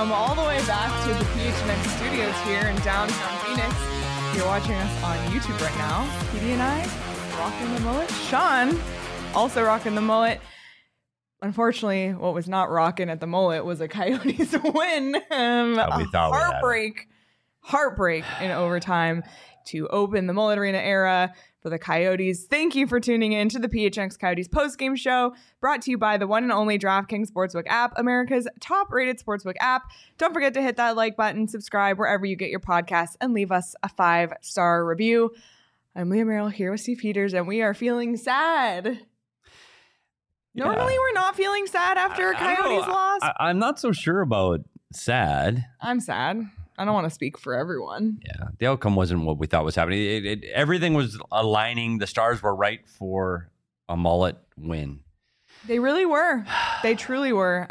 welcome all the way back to the PHNX studios here in downtown Phoenix. If you're watching us on YouTube right now, PD and I rocking the mullet. Sean also rocking the mullet. Unfortunately, what was not rocking at the mullet was a Coyotes win. Heartbreak in overtime to open the Mullet Arena era for the Coyotes. Thank you for tuning in to the PHNX Coyotes postgame show, brought to you by the one and only DraftKings Sportsbook app, America's top-rated sportsbook app. Don't forget to hit that like button, subscribe wherever you get your podcasts, and leave us a 5-star review. I'm Leah Merrill here with Steve Peters, and we are feeling sad. Yeah. Normally, we're not feeling sad after a Coyotes loss. I'm not so sure about sad. I'm sad. I don't want to speak for everyone. Yeah, the outcome wasn't what we thought was happening. Everything was aligning. The stars were right for a mullet win. They really were. They truly were.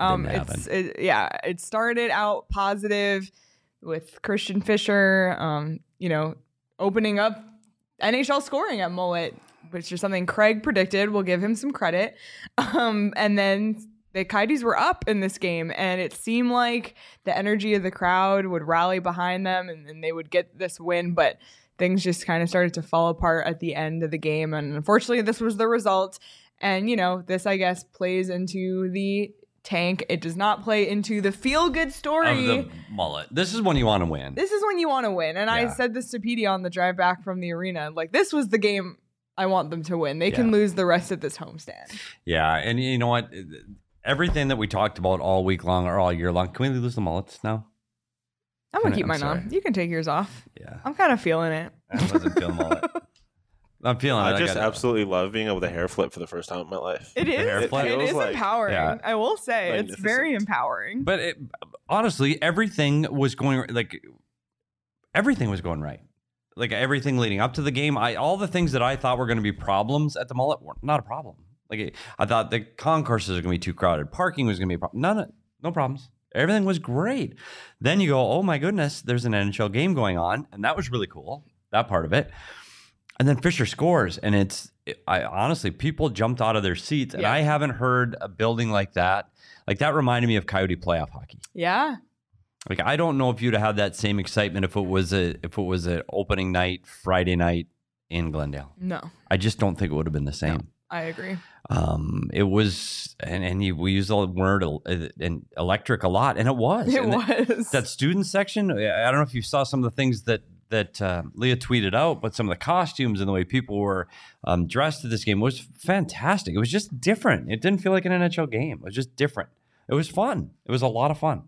It started out positive with Christian Fischer, opening up NHL scoring at mullet, which is something Craig predicted. We'll give him some credit. And then the Coyotes were up in this game, and it seemed like the energy of the crowd would rally behind them, and they would get this win. But things just kind of started to fall apart at the end of the game, and unfortunately, this was the result. And this, I guess, plays into the tank. It does not play into the feel-good story of the mullet. This is when you want to win. This is when you want to win. And I said this to Petey on the drive back from the arena. Like, this was the game I want them to win. They can lose the rest of this homestand. Yeah, and you know what? Everything that we talked about all week long or all year long, can we lose the mullets now? I'm going to keep mine on. You can take yours off. Yeah. I'm kind of feeling it. I wasn't feeling mullet. I'm feeling it. I just absolutely love being able to hair flip for the first time in my life. It is. It is empowering. Yeah. I will say it's very empowering. But honestly, everything was going right. Like everything leading up to the game, all the things that I thought were going to be problems at the mullet were not a problem. Like I thought the concourses are going to be too crowded. Parking was going to be a problem. No problems. Everything was great. Then you go, oh my goodness, there's an NHL game going on. And that was really cool, that part of it. And then Fischer scores. And honestly, people jumped out of their seats. And I haven't heard a building like that. Like that reminded me of Coyote playoff hockey. Yeah. Like I don't know if you'd have had that same excitement if it was an opening night, Friday night in Glendale. No. I just don't think it would have been the same. No, I agree. It was, we use the word electric a lot, and it was. That student section. I don't know if you saw some of the things that Leah tweeted out, but some of the costumes and the way people were dressed at this game was fantastic. It was just different. It didn't feel like an NHL game. It was just different. It was fun. It was a lot of fun.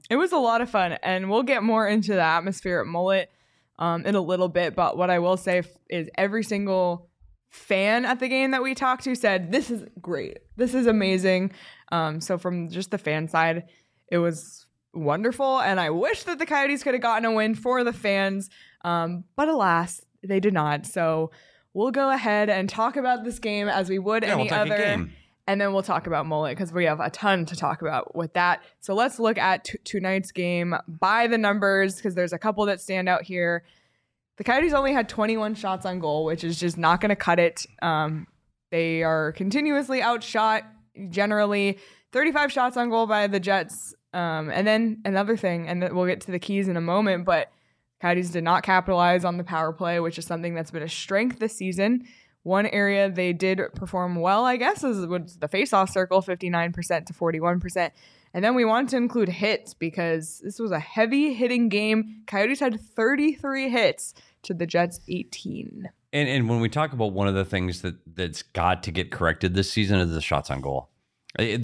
And we'll get more into the atmosphere at Mullet in a little bit. But what I will say is every single fan at the game that we talked to said, this is great. This is amazing. So from just the fan side, it was wonderful. And I wish that the Coyotes could have gotten a win for the fans. But alas, they did not. So we'll go ahead and talk about this game as we would any other game. And then we'll talk about Mullet because we have a ton to talk about with that. So let's look at tonight's game by the numbers because there's a couple that stand out here. The Coyotes only had 21 shots on goal, which is just not going to cut it. They are continuously outshot, generally 35 shots on goal by the Jets. And then another thing, and we'll get to the keys in a moment, but Coyotes did not capitalize on the power play, which is something that's been a strength this season. One area they did perform well, I guess, was the faceoff circle, 59% to 41%. And then we want to include hits because this was a heavy hitting game. Coyotes had 33 hits to the Jets 18. And when we talk about one of the things that's got to get corrected this season is the shots on goal. The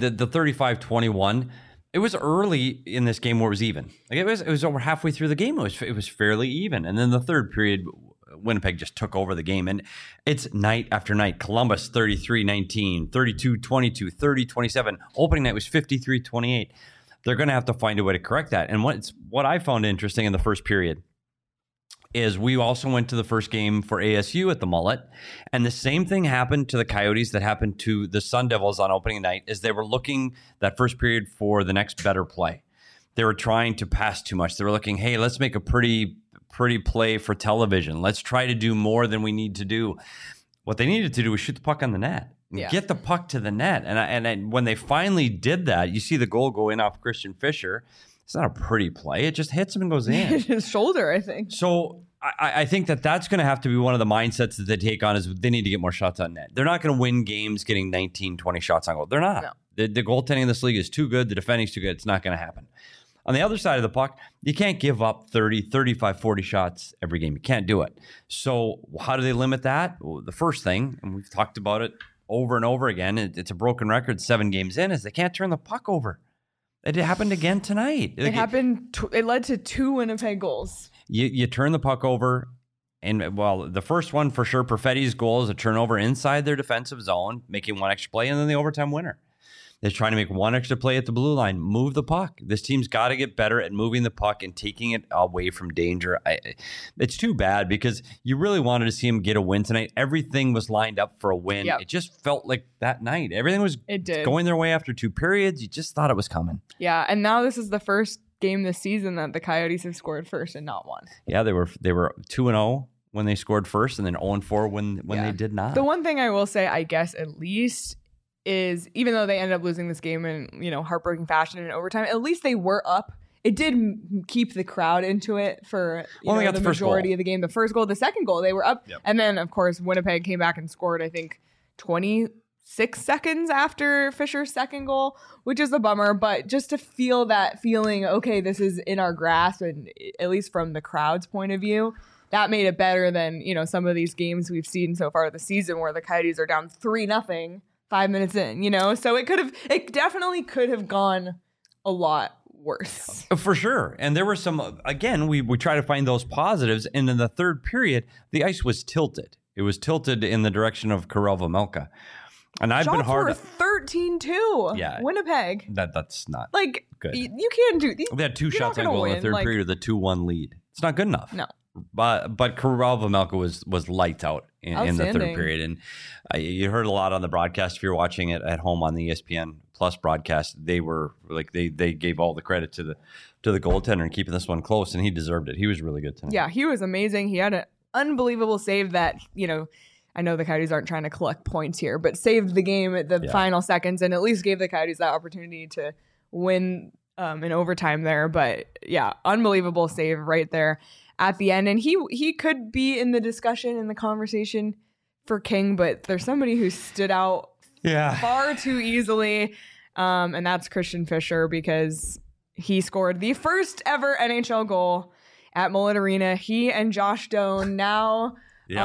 35-21, it was early in this game where it was even. Like it was over halfway through the game. It was fairly even. And then the third period, Winnipeg just took over the game. And it's night after night. Columbus 33-19, 32-22, 30-27. Opening night was 53-28. They're going to have to find a way to correct that. And what I found interesting in the first period is we also went to the first game for ASU at the Mullet, and the same thing happened to the Coyotes that happened to the Sun Devils on opening night, is they were looking that first period for the next better play. They were trying to pass too much. They were looking, hey, let's make a pretty play for television. Let's try to do more than we need to do. What they needed to do was shoot the puck on the net. Get the puck to the net. And when they finally did that, you see the goal go in off Christian Fischer. it's not a pretty play. It just hits him and goes in. His shoulder, I think. So I think that's going to have to be one of the mindsets that they take on is they need to get more shots on net. They're not going to win games getting 19, 20 shots on goal. They're not. No. The goaltending in this league is too good. The defending is too good. It's not going to happen. On the other side of the puck, you can't give up 30, 35, 40 shots every game. You can't do it. So how do they limit that? Well, the first thing, and we've talked about it over and over again, it's a broken record 7 games in, is they can't turn the puck over. It happened again tonight. It led to 2 Winnipeg goals. You turn the puck over, and well, the first one for sure, Perfetti's goal is a turnover inside their defensive zone, making one extra play, and then the overtime winner. They're trying to make one extra play at the blue line, move the puck. This team's got to get better at moving the puck and taking it away from danger. It's too bad because you really wanted to see him get a win tonight. Everything was lined up for a win. Yep. It just felt like that night. Everything was going their way after 2 periods. You just thought it was coming. Yeah, and now this is the first game this season that the Coyotes have scored first and not won. Yeah, they were 2-0 when they scored first, and then 0-4 when they did not. The one thing I will say, I guess at least, is even though they ended up losing this game in heartbreaking fashion in overtime, at least they were up. It did keep the crowd into it for the majority of the game. The first goal, the second goal, they were up, and then of course Winnipeg came back and scored. I think 26 seconds after Fisher's second goal, which is a bummer. But just to feel that feeling, okay, this is in our grasp, and at least from the crowd's point of view, that made it better than some of these games we've seen so far this season where the Coyotes are down 3-0. 5 minutes in, so it definitely could have gone a lot worse. For sure. And there were some, again, we try to find those positives. And in the third period, the ice was tilted. It was tilted in the direction of Karel Vejmelka. And I've Shots been hard. Were 13-2. Yeah. Winnipeg. That's not good. You can't do these. They had 2 shots on goal in the third period with a 2-1 lead. It's not good enough. No. But Karel Vejmelka was lights out in the third period, and you heard a lot on the broadcast. If you're watching it at home on the ESPN Plus broadcast, they were they gave all the credit to the goaltender and keeping this one close, and he deserved it. He was really good tonight. Yeah, he was amazing. He had an unbelievable save that I know the Coyotes aren't trying to collect points here, but saved the game at the final seconds and at least gave the Coyotes that opportunity to win in overtime there. But yeah, unbelievable save right there at the end. And he could be in the discussion, in the conversation for King, but there's somebody who stood out far too easily. And that's Christian Fischer, because he scored the first ever NHL goal at Mullet Arena. He and Josh Doan now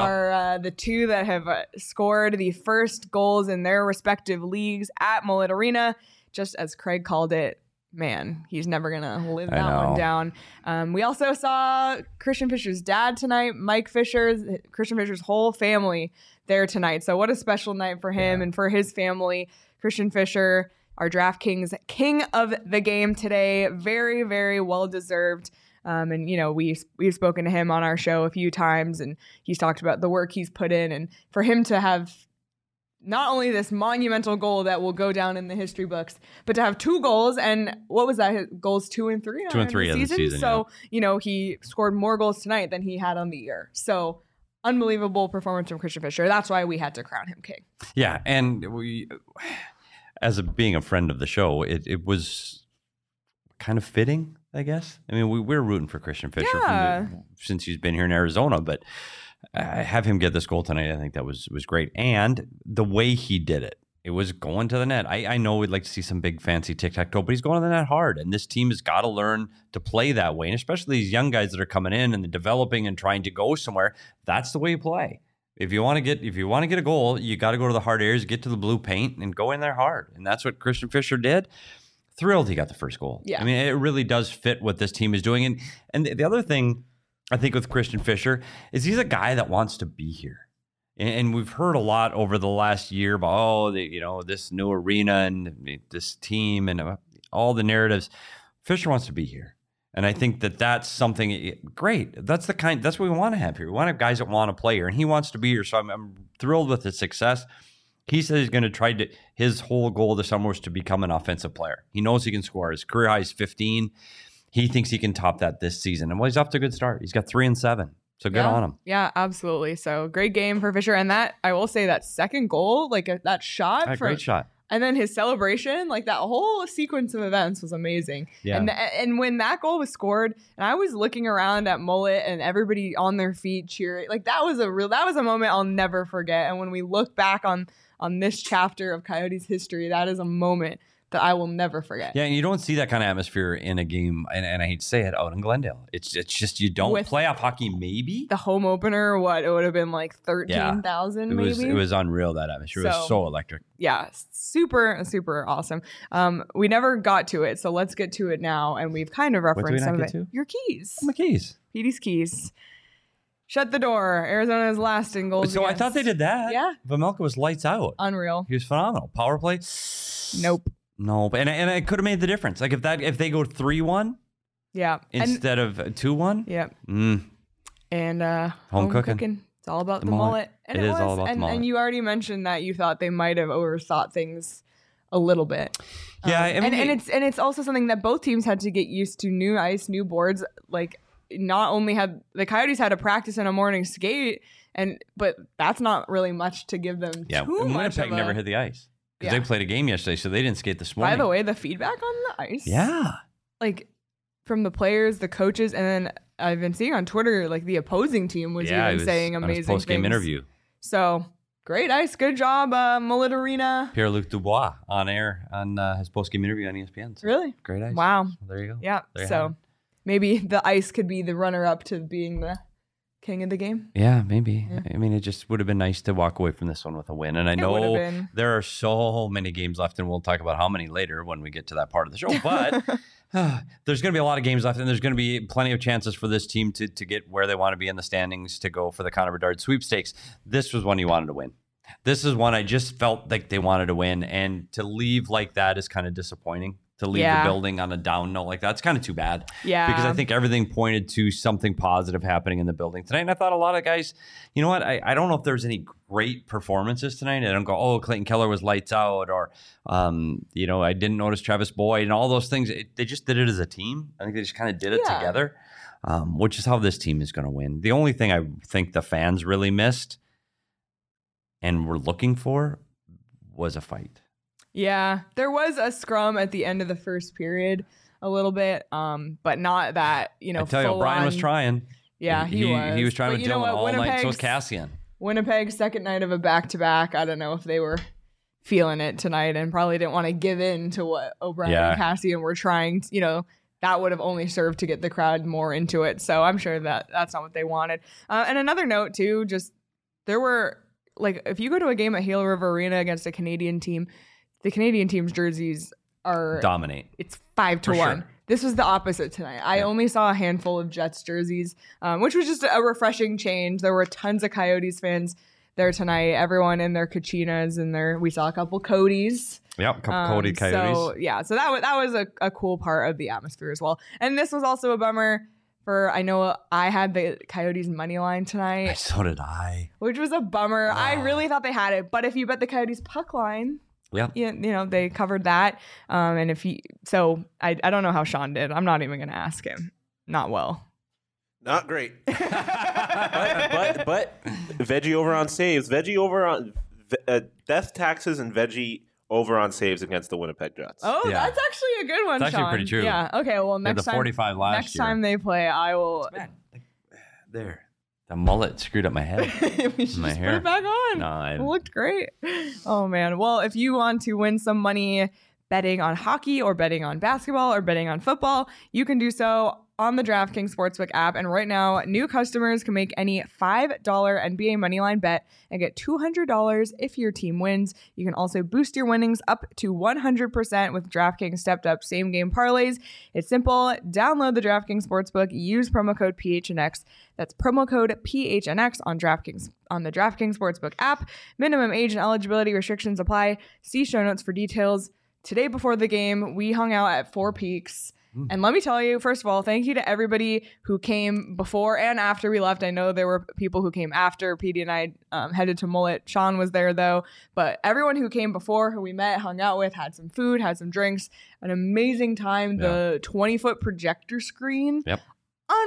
are the two that have scored the first goals in their respective leagues at Mullet Arena. Just as Craig called it, man, he's never going to live that one down. We also saw Christian Fischer's dad tonight, Mike Fisher, Christian Fischer's whole family there tonight. So what a special night for him and for his family. Christian Fischer, our DraftKings king of the game today. Very, very well-deserved. And, we've spoken to him on our show a few times, and he's talked about the work he's put in. And for him to have not only this monumental goal that will go down in the history books, but to have 2 goals, and what was that? Goals 2 and 3? 2 and 3 of the season. So, he scored more goals tonight than he had on the year. So unbelievable performance from Christian Fischer. That's why we had to crown him king. Yeah. And we, being a friend of the show, it was kind of fitting, I guess. I mean, we're rooting for Christian Fischer since he's been here in Arizona, but have him get this goal tonight, I think that was great. And the way he did it, it was going to the net. I know we'd like to see some big fancy tic-tac-toe, but he's going to the net hard. And this team has got to learn to play that way. And especially these young guys that are coming in and developing and trying to go somewhere, that's the way you play. If you want to get a goal, you got to go to the hard areas, get to the blue paint, and go in there hard. And that's what Christian Fischer did. Thrilled he got the first goal. Yeah. I mean, it really does fit what this team is doing. And the other thing I think with Christian Fischer is he's a guy that wants to be here. And we've heard a lot over the last year about, this new arena and this team and all the narratives. Fischer wants to be here. And I think that's something great. That's what we want to have here. We want to have guys that want to play here, and he wants to be here. So I'm thrilled with his success. He says he's going to try his whole goal this summer was to become an offensive player. He knows he can score. His career high is 15. He thinks he can top that this season. And he's off to a good start. He's got 3 and 7. So good on him. Yeah, absolutely. So great game for Fischer. And that, I will say, that second goal, that shot. Great shot. And then his celebration, like that whole sequence of events was amazing. Yeah. And when that goal was scored, and I was looking around at Mullet and everybody on their feet cheering, like that was a moment I'll never forget. And when we look back on this chapter of Coyotes history, that is a moment that I will never forget. Yeah, and you don't see that kind of atmosphere in a game, and I hate to say it, out in Glendale. It's just you don't. With playoff hockey, maybe the home opener, it would have been like 13,000 maybe. It was unreal, that atmosphere. It was so electric. Yeah, super, super awesome. We never got to it, so let's get to it now. And we've kind of referenced some of it. Your keys. My keys. Petey's keys. Shut the door. Arizona's last in goals. So I thought they did that. Yeah. Vejmelka was lights out. Unreal. He was phenomenal. Power play. Nope. No, and it could have made the difference. Like if they go 3-1, yeah, instead of 2-1, yeah, and home cooking. It's all about the mullet. And it is all about the mullet. And you already mentioned that you thought they might have overthought things a little bit. Yeah, and it's also something that both teams had to get used to. New ice, new boards. Like not only had the Coyotes had a practice and a morning skate, but that's not really much to give them. Yeah, too much. Winnipeg never hit the ice. Because they played a game yesterday, so they didn't skate this morning. By the way, the feedback on the ice. Yeah. Like, from the players, the coaches, and then I've been seeing on Twitter, like, the opposing team was even saying amazing things. Post-game interview. So, great ice. Good job, Mullet Arena. Pierre-Luc Dubois on air on his post-game interview on ESPN. So really? Great ice. Wow. Well, there you go. Yeah. So, maybe the ice could be the runner-up to being the king of the game. Yeah, maybe. Yeah. I mean, it just would have been nice to walk away from this one with a win. And I know there are so many games left, and we'll talk about how many later when we get to that part of the show. But there's going to be a lot of games left, and there's going to be plenty of chances for this team to get where they want to be in the standings, to go for the Connor Bedard sweepstakes. This was one you wanted to win. This is one I just felt like they wanted to win, and to leave like that is kind of disappointing. To leave the building on a down note like that's kind of too bad. Yeah. Because I think everything pointed to something positive happening in the building tonight. And I thought a lot of guys, you know what? I don't know if there's any great performances tonight. I don't go, oh, Clayton Keller was lights out, or, I didn't notice Travis Boyd and all those things. They just did it as a team. I think they just kind of did it together, which is how this team is going to win. The only thing I think the fans really missed and were looking for was a fight. Yeah, there was a scrum at the end of the first period a little bit, but not that, I tell you, Brian was trying. Yeah, he was. He was trying with Dylan all night. So was Cassian. Winnipeg's second night of a back-to-back. I don't know if they were feeling it tonight and probably didn't want to give in to what O'Brien and Cassian were trying to, that would have only served to get the crowd more into it. So I'm sure that's not what they wanted. And another note, too, just there were, like, if you go to a game at Hale River Arena against a Canadian team, the Canadian team's jerseys are dominate. It's 5-1. Sure. This was the opposite tonight. I only saw a handful of Jets jerseys, which was just a refreshing change. There were tons of Coyotes fans there tonight. Everyone in their Kachinas and we saw a couple Codys. Yep, a couple Cody Coyotes. So that was a cool part of the atmosphere as well. And this was also a bummer. I know I had the Coyotes money line tonight. So did I. Which was a bummer. I really thought they had it, but if you bet the Coyotes puck line. Yeah, they covered that. And I don't know how Sean did. I'm not even going to ask him. Not well. Not great. but veggie over on saves. Veggie over on death taxes and veggie over on saves against the Winnipeg Jets. Oh, that's actually a good one, It's Sean. actually pretty true. Yeah. Okay. Well, next time 45 last next time they play, I will. There. The mullet screwed up my head. We should just put it back on. No, it looked great. Oh, man. Well, if you want to win some money betting on hockey or betting on basketball or betting on football, you can do so on the DraftKings Sportsbook app. And right now, new customers can make any $5 NBA moneyline bet and get $200 if your team wins. You can also boost your winnings up to 100% with DraftKings stepped up same game parlays. It's simple. Download the DraftKings Sportsbook. Use promo code PHNX. That's promo code PHNX on the DraftKings Sportsbook app. Minimum age and eligibility restrictions apply. See show notes for details. Today before the game, we hung out at Four Peaks. And let me tell you, first of all, thank you to everybody who came before and after we left. I know there were people who came after Petey and I headed to Mullet. Sean was there, though. But everyone who came before, who we met, hung out with, had some food, had some drinks. An amazing time. Yeah. The 20-foot projector screen. Yep.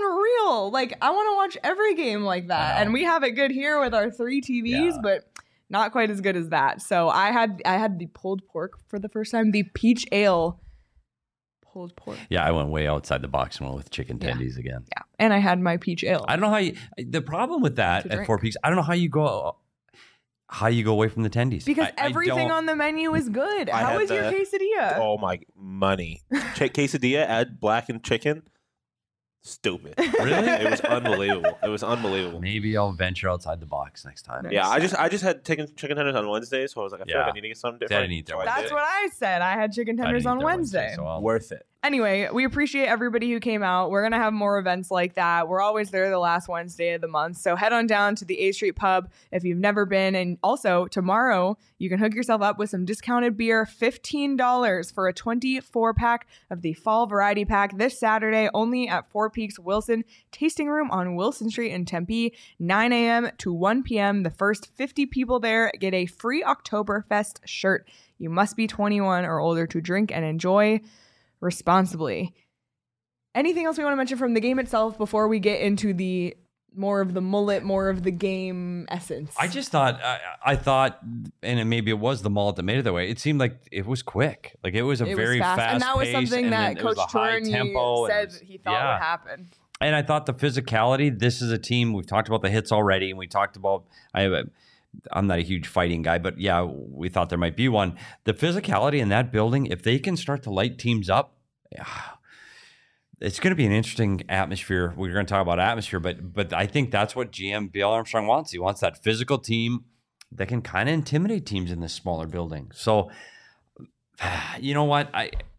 Unreal. Like, I want to watch every game like that. And we have it good here with our 3 TVs, but not quite as good as that. So I had the pulled pork for the first time, the peach ale pulled pork. Yeah, I went way outside the box and went with chicken tendies again. Yeah, and I had my peach ale. I don't know the problem with that at Four Peaks, I don't know how you go away from the tendies. Because everything on the menu is good. How is your quesadilla? Oh my money. Quesadilla, add blackened chicken. Stupid. Really? It was unbelievable. It was unbelievable. Maybe I'll venture outside the box next time. Yeah, I just had chicken tenders on Wednesday, so I was like, I feel like I need to get something different. I didn't eat there. That's what I said. I had chicken tenders on Wednesday. So Worth it. Anyway, we appreciate everybody who came out. We're going to have more events like that. We're always there the last Wednesday of the month. So head on down to the A Street Pub if you've never been. And also, tomorrow, you can hook yourself up with some discounted beer, $15 for a 24-pack of the Fall Variety Pack this Saturday, only at Four Peaks Wilson Tasting Room on Wilson Street in Tempe, 9 a.m. to 1 p.m. The first 50 people there get a free Oktoberfest shirt. You must be 21 or older to drink and enjoy responsibly. Anything else we want to mention from the game itself before we get into the more of the mullet, more of the game essence? I just thought, I thought, and maybe it was the mullet that made it that way. It seemed like it was quick. Like it was very fast and that was pace, something that Coach Tourney said he thought would happen. And I thought the physicality, this is a team, we've talked about the hits already, and we talked about, I'm not a huge fighting guy, but yeah, we thought there might be one. The physicality in that building, if they can start to light teams up, it's going to be an interesting atmosphere. We're going to talk about atmosphere, but I think that's what GM Bill Armstrong wants. He wants that physical team that can kind of intimidate teams in this smaller building. So, you know what?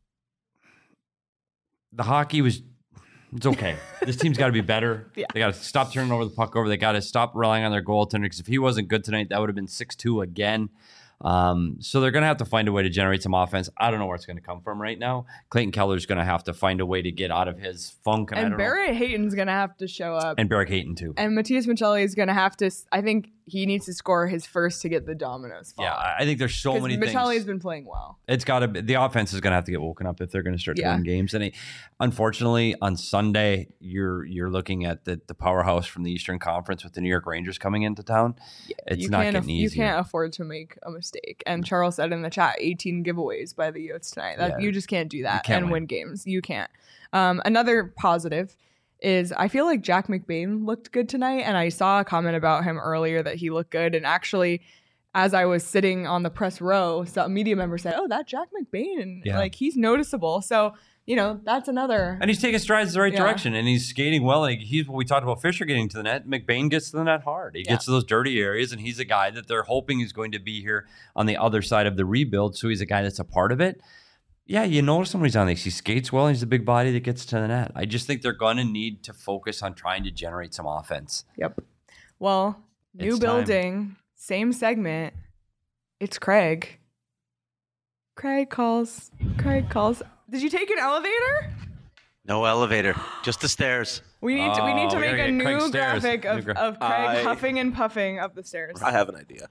The hockey was... It's okay. This team's got to be better. Yeah. They got to stop turning over the puck over. They got to stop relying on their goaltender, because if he wasn't good tonight, that would have been 6-2 again. So they're going to have to find a way to generate some offense. I don't know where it's going to come from right now. Clayton Keller's going to have to find a way to get out of his funk. And Barrett Hayton's going to have to show up. And Barrett Hayton, too. And Matthias Michelli is going to have to, I think he needs to score his first to get the dominoes fall. Yeah, I think there's so many things. Michelli's been playing well. It's got to be, the offense is going to have to get woken up if they're going to start to win games. And unfortunately, on Sunday, you're looking at the powerhouse from the Eastern Conference with the New York Rangers coming into town. It's not getting easy. You can't afford to make a mistake. And Charles said in the chat, 18 giveaways by the Yotes tonight. You just can't do that and win games. You can't. Another positive is I feel like Jack McBain looked good tonight, and I saw a comment about him earlier that he looked good. And actually, as I was sitting on the press row, a media member said, "Oh, that Jack McBain, like he's noticeable." So that's another. And he's taking strides in the right direction, and he's skating well. Like he's what we talked about Fisher getting to the net. McBain gets to the net hard. He gets to those dirty areas, and he's a guy that they're hoping is going to be here on the other side of the rebuild. So he's a guy that's a part of it. Yeah, you notice when he's on this. He skates well, and he's a big body that gets to the net. I just think they're going to need to focus on trying to generate some offense. Yep. Well, new building, same segment. It's Craig. Craig calls. Did you take an elevator? No elevator, just the stairs. We need to make a new graphic of Craig huffing and puffing up the stairs. I have an idea.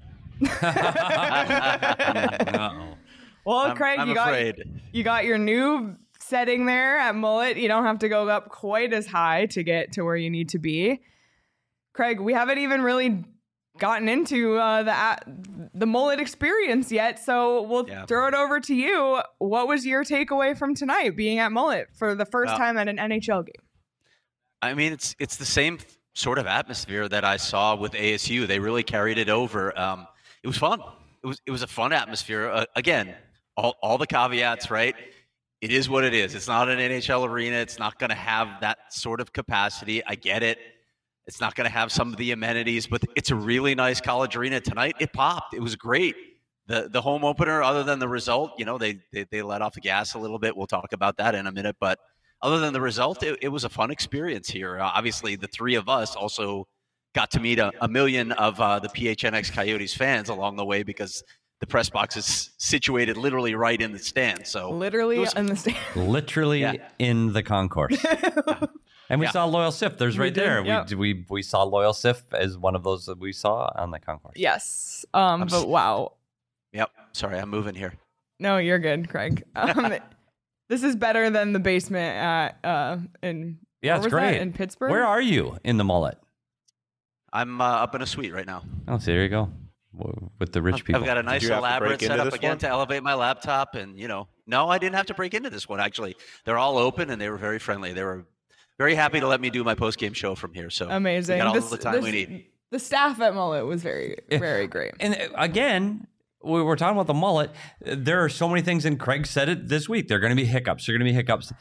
Uh-oh. Well, Craig, you got your new setting there at Mullet. You don't have to go up quite as high to get to where you need to be. Craig, we haven't even really gotten into the Mullet experience yet, so we'll throw it over to you. What was your takeaway from tonight, being at Mullet for the first time at an NHL game? I mean, it's the same sort of atmosphere that I saw with ASU. They really carried it over. It was fun. It was a fun atmosphere. Again, all the caveats, right? It is what it is. It's not an NHL arena. It's not going to have that sort of capacity. I get it. It's not going to have some of the amenities, but it's a really nice college arena tonight. It popped. It was great. The home opener, other than the result, they let off the gas a little bit. We'll talk about that in a minute. But other than the result, it was a fun experience here. Obviously, the three of us also got to meet a million of the PHNX Coyotes fans along the way, because the press box is situated literally right in the stand. So literally in the stand. Literally in the concourse. And we saw Loyal Sif. There's right there. Yep. We saw Loyal Sif as one of those that we saw on the concourse. Yes. But wow. Yep. Sorry, I'm moving here. No, you're good, Craig. This is better than the basement in it's great. In Pittsburgh. Where are you in the Mullet? I'm up in a suite right now. Oh, so there you go. with the rich people. I've got a nice you have to elaborate break into setup this again one? to elevate my laptop, and no, I didn't have to break into this one. Actually, they're all open and they were very friendly. They were very happy to let me do my post game show from here. So Amazing. we got all the time we need. The staff at Mullet was very, very great. And again, we were talking about the mullet. There are so many things, and Craig said it this week. There are going to be hiccups. There are going to be hiccups.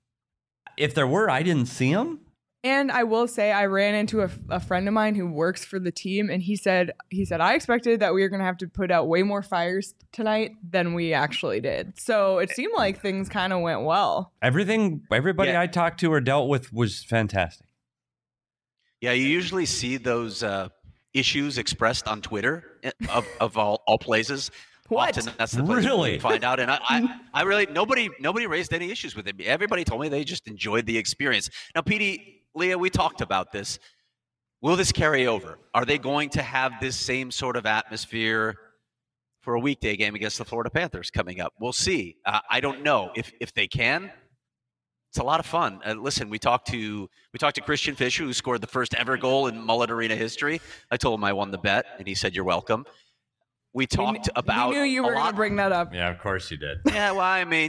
If there were, I didn't see them. And I will say, I ran into a friend of mine who works for the team, and he said I expected that we were going to have to put out way more fires tonight than we actually did. So it seemed like things kind of went well. Everybody Yeah. I talked to or dealt with was fantastic. Yeah, you usually see those issues expressed on Twitter of all places. What? Often that's the place where Really? you find out. And I really nobody raised any issues with it. Everybody told me they just enjoyed the experience. Now, Petey, Leah, we talked about this. Will this carry over? Are they going to have this same sort of atmosphere for a weekday game against the Florida Panthers coming up? We'll see. I don't know if they can. It's a lot of fun. Listen, we talked to Christian Fisher, who scored the first ever goal in Mullet Arena history. I told him I won the bet, and he said, "You're welcome." We talked about. You knew you were going to bring that up. Yeah, of course you did. Yeah, well, I mean,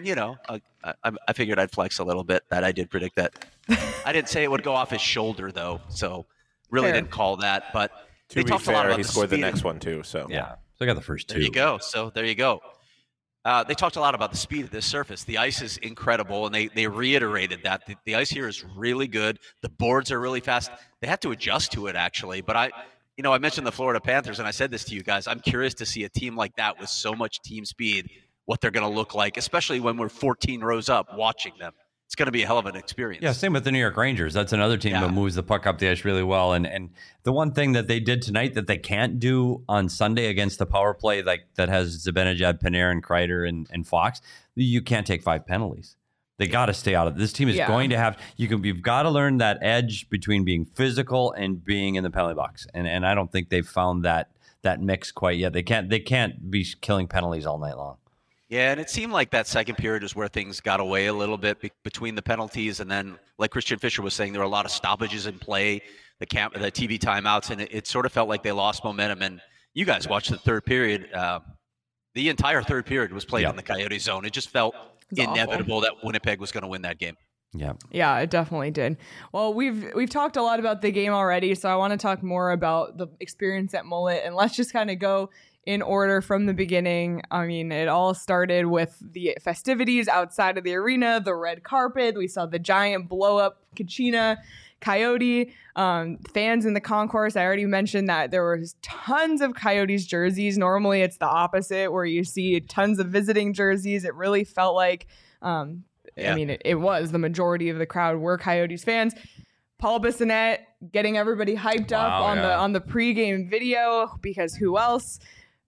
I figured I'd flex a little bit. That I did predict that. I didn't say it would go off his shoulder though, so really Fair. didn't call that. But To they be talked a lot fair, about he the scored the speed. next one too. So Yeah. So I got the first two. There you go. So there you go. They talked a lot about the speed of this surface. The ice is incredible, and they reiterated that. The ice here is really good. The boards are really fast. They had to adjust to it, actually. But I mentioned the Florida Panthers, and I said this to you guys. I'm curious to see a team like that with so much team speed, what they're going to look like, especially when we're 14 rows up watching them. It's going to be a hell of an experience. Yeah, same with the New York Rangers. That's another team Yeah. that moves the puck up the ice really well. And the one thing that they did tonight that they can't do on Sunday against the power play that has Zibanejad, Panarin, Kreider, and Fox, you can't take 5 penalties. They got to stay out of it. This team is Yeah. going to have you've got to learn that edge between being physical and being in the penalty box. And I don't think they've found that mix quite yet. They can't be killing penalties all night long. Yeah, and it seemed like that second period is where things got away a little bit between the penalties, and then, like Christian Fisher was saying, there were a lot of stoppages in play, the TV timeouts, and it sort of felt like they lost momentum. And you guys watched the third period. The entire third period was played Yeah. in the Coyote zone. It just felt was awful. inevitable that Winnipeg was going to win that game. Yeah. Yeah, it definitely did. Well, we've talked a lot about the game already, so I want to talk more about the experience at Mullet, and let's just kind of go in order from the beginning. I mean, it all started with the festivities outside of the arena, the red carpet. We saw the giant blow up Kachina Coyote, fans in the concourse. I already mentioned that there was tons of Coyotes jerseys. Normally it's the opposite where you see tons of visiting jerseys. It really felt like, I mean, it was the majority of the crowd were Coyotes fans. Paul Bissonnette getting everybody hyped up on the pregame video, because who else?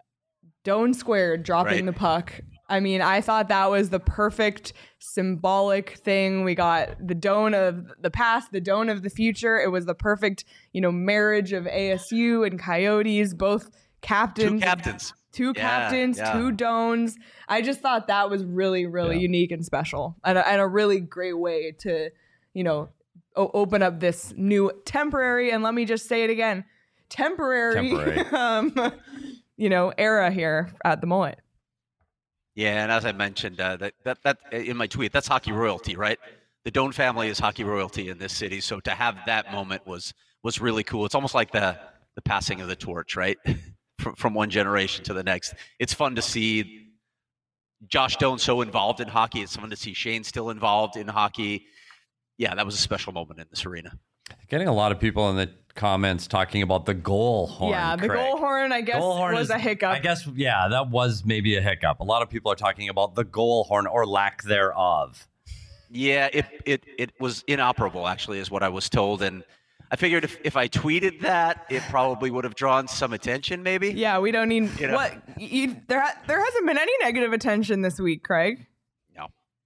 Doan Squared dropping the puck. I mean, I thought that was the perfect symbolic thing. We got the Doan of the past, the Doan of the future. It was the perfect, marriage of ASU and Coyotes, both captains. Two captains, yeah. two Doans. I just thought that was really, really unique and special, and a really great way to, open up this new temporary, and let me just say it again, temporary. Era here at the Mullet. Yeah, and as I mentioned, that in my tweet, that's hockey royalty, right? The Doan family is hockey royalty in this city, so to have that moment was really cool. It's almost like the passing of the torch, right? From one generation to the next. It's fun to see Josh Doan so involved in hockey. It's fun to see Shane still involved in hockey. Yeah, that was a special moment in this arena. Getting a lot of people in the comments talking about the goal horn. Yeah, the Craig. goal horn, I guess, was a hiccup. I guess, yeah, that was maybe a hiccup. A lot of people are talking about the goal horn or lack thereof. Yeah, it was inoperable, actually, is what I was told. And I figured if I tweeted that, it probably would have drawn some attention, maybe. Yeah, we don't need what there hasn't been any negative attention this week, Craig. No.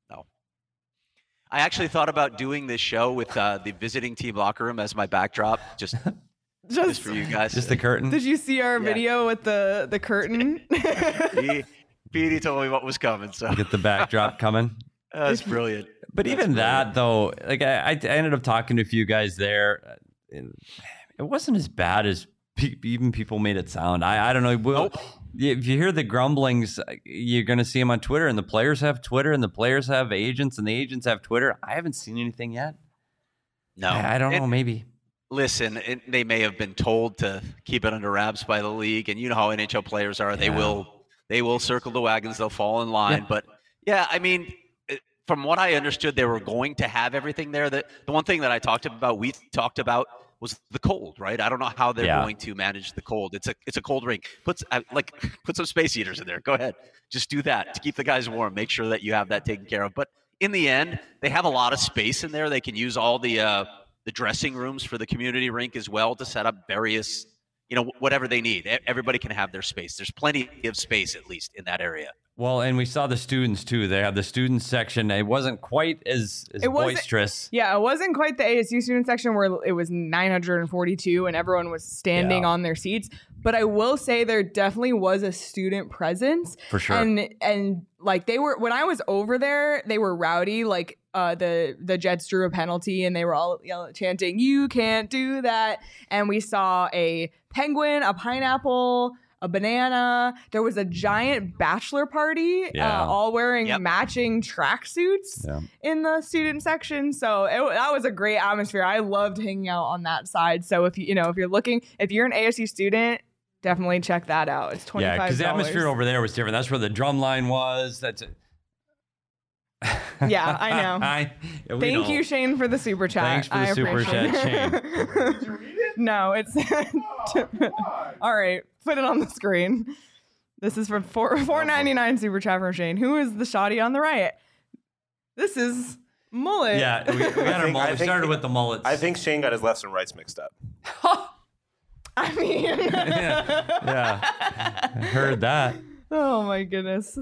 I actually thought about doing this show with the visiting team locker room as my backdrop, just for you guys. Just the curtain. Did you see our video with the curtain? Petey told me what was coming, so Get the backdrop coming. that's brilliant. But even that, though, like I ended up talking to a few guys there. It wasn't as bad as even people made it sound. I don't know. Nope. If you hear the grumblings, you're going to see them on Twitter, and the players have Twitter, and the players have agents, and the agents have Twitter. I haven't seen anything yet. No, I don't know. Maybe. Listen, they may have been told to keep it under wraps by the league, and you know how NHL players are. They will circle the wagons. They'll fall in line. Yeah. But yeah, I mean, from what I understood, they were going to have everything there. The one thing that we talked about was the cold, right? I don't know how they're going to manage the cold. It's a cold rink. Put some space heaters in there. Go ahead, just do that to keep the guys warm. Make sure that you have that taken care of. But in the end, they have a lot of space in there. They can use all the dressing rooms for the community rink as well to set up various, whatever they need. Everybody can have their space. There's plenty of space, at least in that area. Well, and we saw the students too. They have the student section. It wasn't quite as boisterous. Yeah, it wasn't quite the ASU student section where it was 942 and everyone was standing on their seats. But I will say there definitely was a student presence. For sure. And like they were, when I was over there, they were rowdy. Like the Jets drew a penalty and they were all chanting, "You can't do that." And we saw a penguin, a pineapple, a banana. There was a giant bachelor party, all wearing matching tracksuits in the student section. So that was a great atmosphere. I loved hanging out on that side. So if you're an ASU student, definitely check that out. It's $25. Yeah, because the atmosphere over there was different. That's where the drum line was. That's it. Yeah, I know. Thank you, Shane, for the super chat. Thanks for the super chat, Shane. Did you read it? No, it's all right. Put it on the screen. This is from $4.99 super chat from Shane. Who is the shoddy on the right? This is Mullet. Yeah, we got our mullet. We started with the mullets. I think Shane got his lefts and rights mixed up. I mean, yeah, I heard that. Oh my goodness.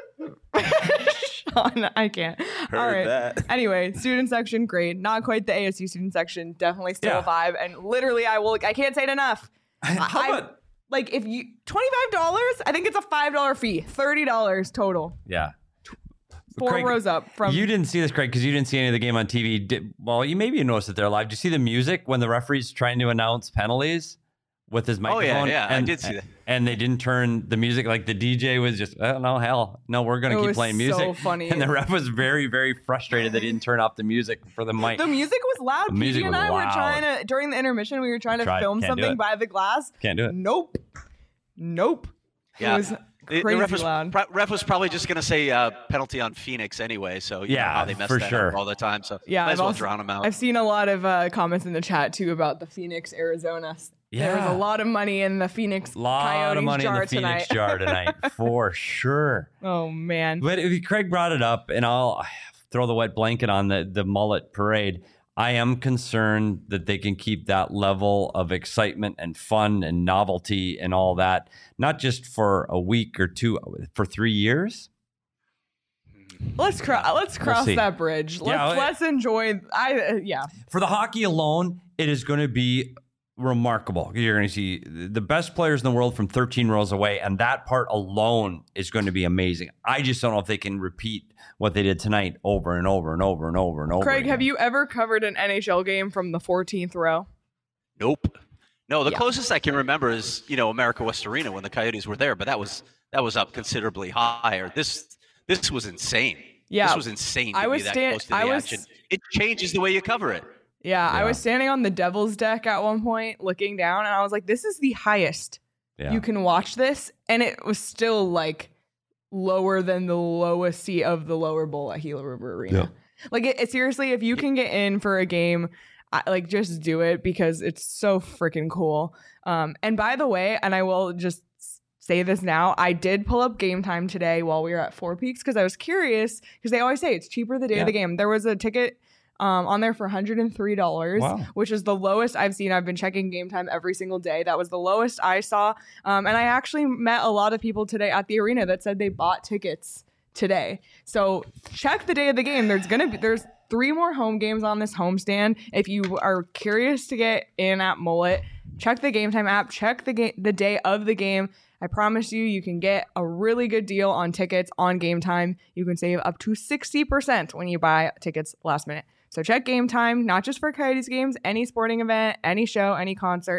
Sean, I can't. All right. That. Anyway, student section, great. Not quite the ASU student section. Definitely still a vibe. And literally, I can't say it enough. How about like if you $25? I think it's a $5 fee. $30 total. Yeah. Four Craig, rows up from. You didn't see this, Craig, because you didn't see any of the game on TV. You maybe noticed it there live. Did you see the music when the referee's trying to announce penalties with his microphone? Oh, yeah, I did see that. And they didn't turn the music, like the DJ was just, oh, no, hell, no, we're going to keep playing music. So funny. And the ref was very, very frustrated that he didn't turn off the music for the mic. The music was loud. The music PG and was I were loud. trying to, during the intermission, we were trying to film something by the glass. Can't do it. Nope. Yeah. It was crazy the ref was probably just going to say penalty on Phoenix anyway. So you know how they mess for that sure. up all the time. So yeah, might as well drown them out. I've seen a lot of comments in the chat too about the Phoenix, Arizona. Yeah. There was a lot of money in the Phoenix Coyotes jar tonight. Jar tonight, for sure. Oh man! But if Craig brought it up, and I'll throw the wet blanket on the mullet parade. I am concerned that they can keep that level of excitement and fun and novelty and all that, not just for a week or two, for 3 years. Let's cross that bridge. Let's enjoy. For the hockey alone, it is going to be remarkable. You're going to see the best players in the world from 13 rows away, and that part alone is going to be amazing. I just don't know if they can repeat what they did tonight over and over and over and over and over. Craig, again. have you ever covered an NHL game from the 14th row? Nope. No, the closest I can remember is America West Arena when the Coyotes were there, but that was up considerably higher. This was insane. Yeah, this was insane to be that close to the action. It changes the way you cover it. Yeah, I was standing on the Devil's deck at one point looking down, and I was like, this is the highest you can watch this. And it was still like lower than the lowest seat of the lower bowl at Gila River Arena. Yeah. Like, it seriously, if you can get in for a game, just do it because it's so freaking cool. And by the way, and I will just say this now, I did pull up Game Time today while we were at Four Peaks because I was curious, because they always say it's cheaper the day of the game. There was a ticket on there for $103, which is the lowest I've seen. I've been checking Game Time every single day. That was the lowest I saw. And I actually met a lot of people today at the arena that said they bought tickets today. So check the day of the game. There's 3 more home games on this homestand. If you are curious to get in at Mullet, check the Game Time app. Check the day of the game. I promise you can get a really good deal on tickets on Game Time. You can save up to 60% when you buy tickets last minute. So check Game Time, not just for Coyotes games, any sporting event, any show, any concert.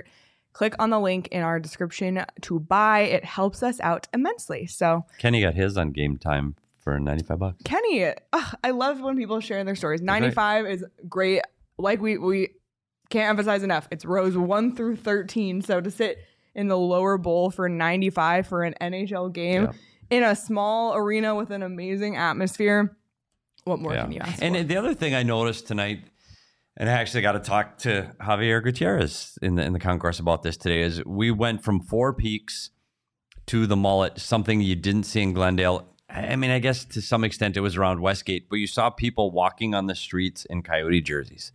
click on the link in our description to buy. It helps us out immensely. So Kenny got his on Game Time for $95. Kenny, I love when people share their stories. 95 is great. Like we can't emphasize enough. It's rows 1 through 13. So to sit in the lower bowl for 95 for an NHL game in a small arena with an amazing atmosphere, what more can you ask and for? the other thing I noticed tonight, and I actually got to talk to Javier Gutierrez in the concourse about this today, is we went from Four Peaks to the Mullet, something you didn't see in Glendale. I mean, I guess to some extent it was around Westgate, but you saw people walking on the streets in Coyote jerseys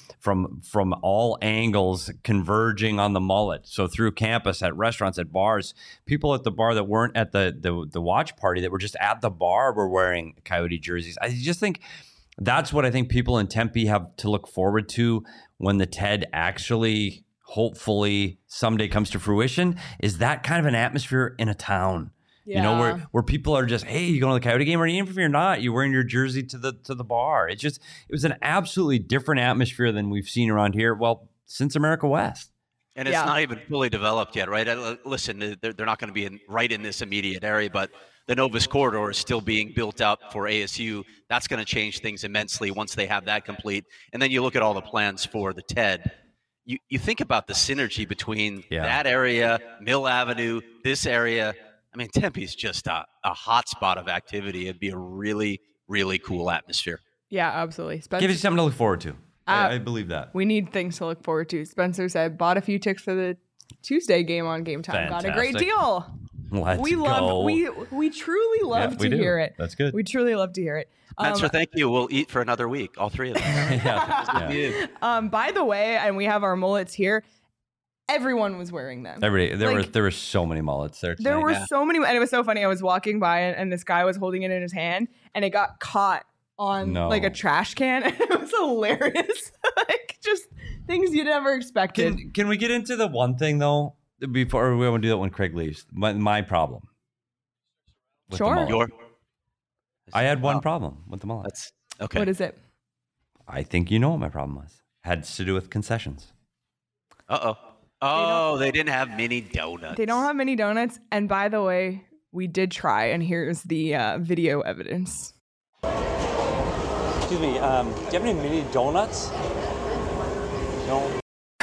from all angles converging on the Mullet. So through campus, at restaurants, at bars, people at the bar that weren't at the watch party, that were just at the bar, were wearing Coyote jerseys. I just think that's what I think people in Tempe have to look forward to when the TED actually, hopefully, someday comes to fruition, is that kind of an atmosphere in a town. You know, where people are just, hey, you going to the Coyote game? Or even if you're not, you're wearing your jersey to the bar. It was an absolutely different atmosphere than we've seen around here, well, since America West. And it's not even fully developed yet, right? Listen, they're not going to be right in this immediate area, but the Novus Corridor is still being built up for ASU. That's going to change things immensely once they have that complete. And then you look at all the plans for the TED. You think about the synergy between that area, Mill Avenue, this area. I mean, Tempe's just a hot spot of activity. It'd be a really, really cool atmosphere. Yeah, absolutely. Spencer, Give you something to look forward to. I believe that. we need things to look forward to. Spencer said, bought a few tickets for the Tuesday game on Game Time. Got a great Fantastic. deal. Let's We go. truly love we to do. hear it. That's good. We truly love to hear it. Spencer, thank you. We'll eat for another week, all three of them. Yeah. By the way, and we have our mullets here. Everyone was wearing them. There were so many mullets there tonight. There were so many, and it was so funny. I was walking by, and this guy was holding it in his hand, and it got caught on like a trash can. And it was hilarious. Like just things you never expected. Can we get into the one thing though before we want to do that when Craig leaves? My problem. With the Sure. mullet. I had one problem with the mullet. That's okay. What is it? I think you know what my problem was. Had to do with concessions. Oh, they didn't have mini donuts. They don't have mini donuts. And by the way, we did try, and here's the video evidence. Excuse me, do you have any mini donuts? No.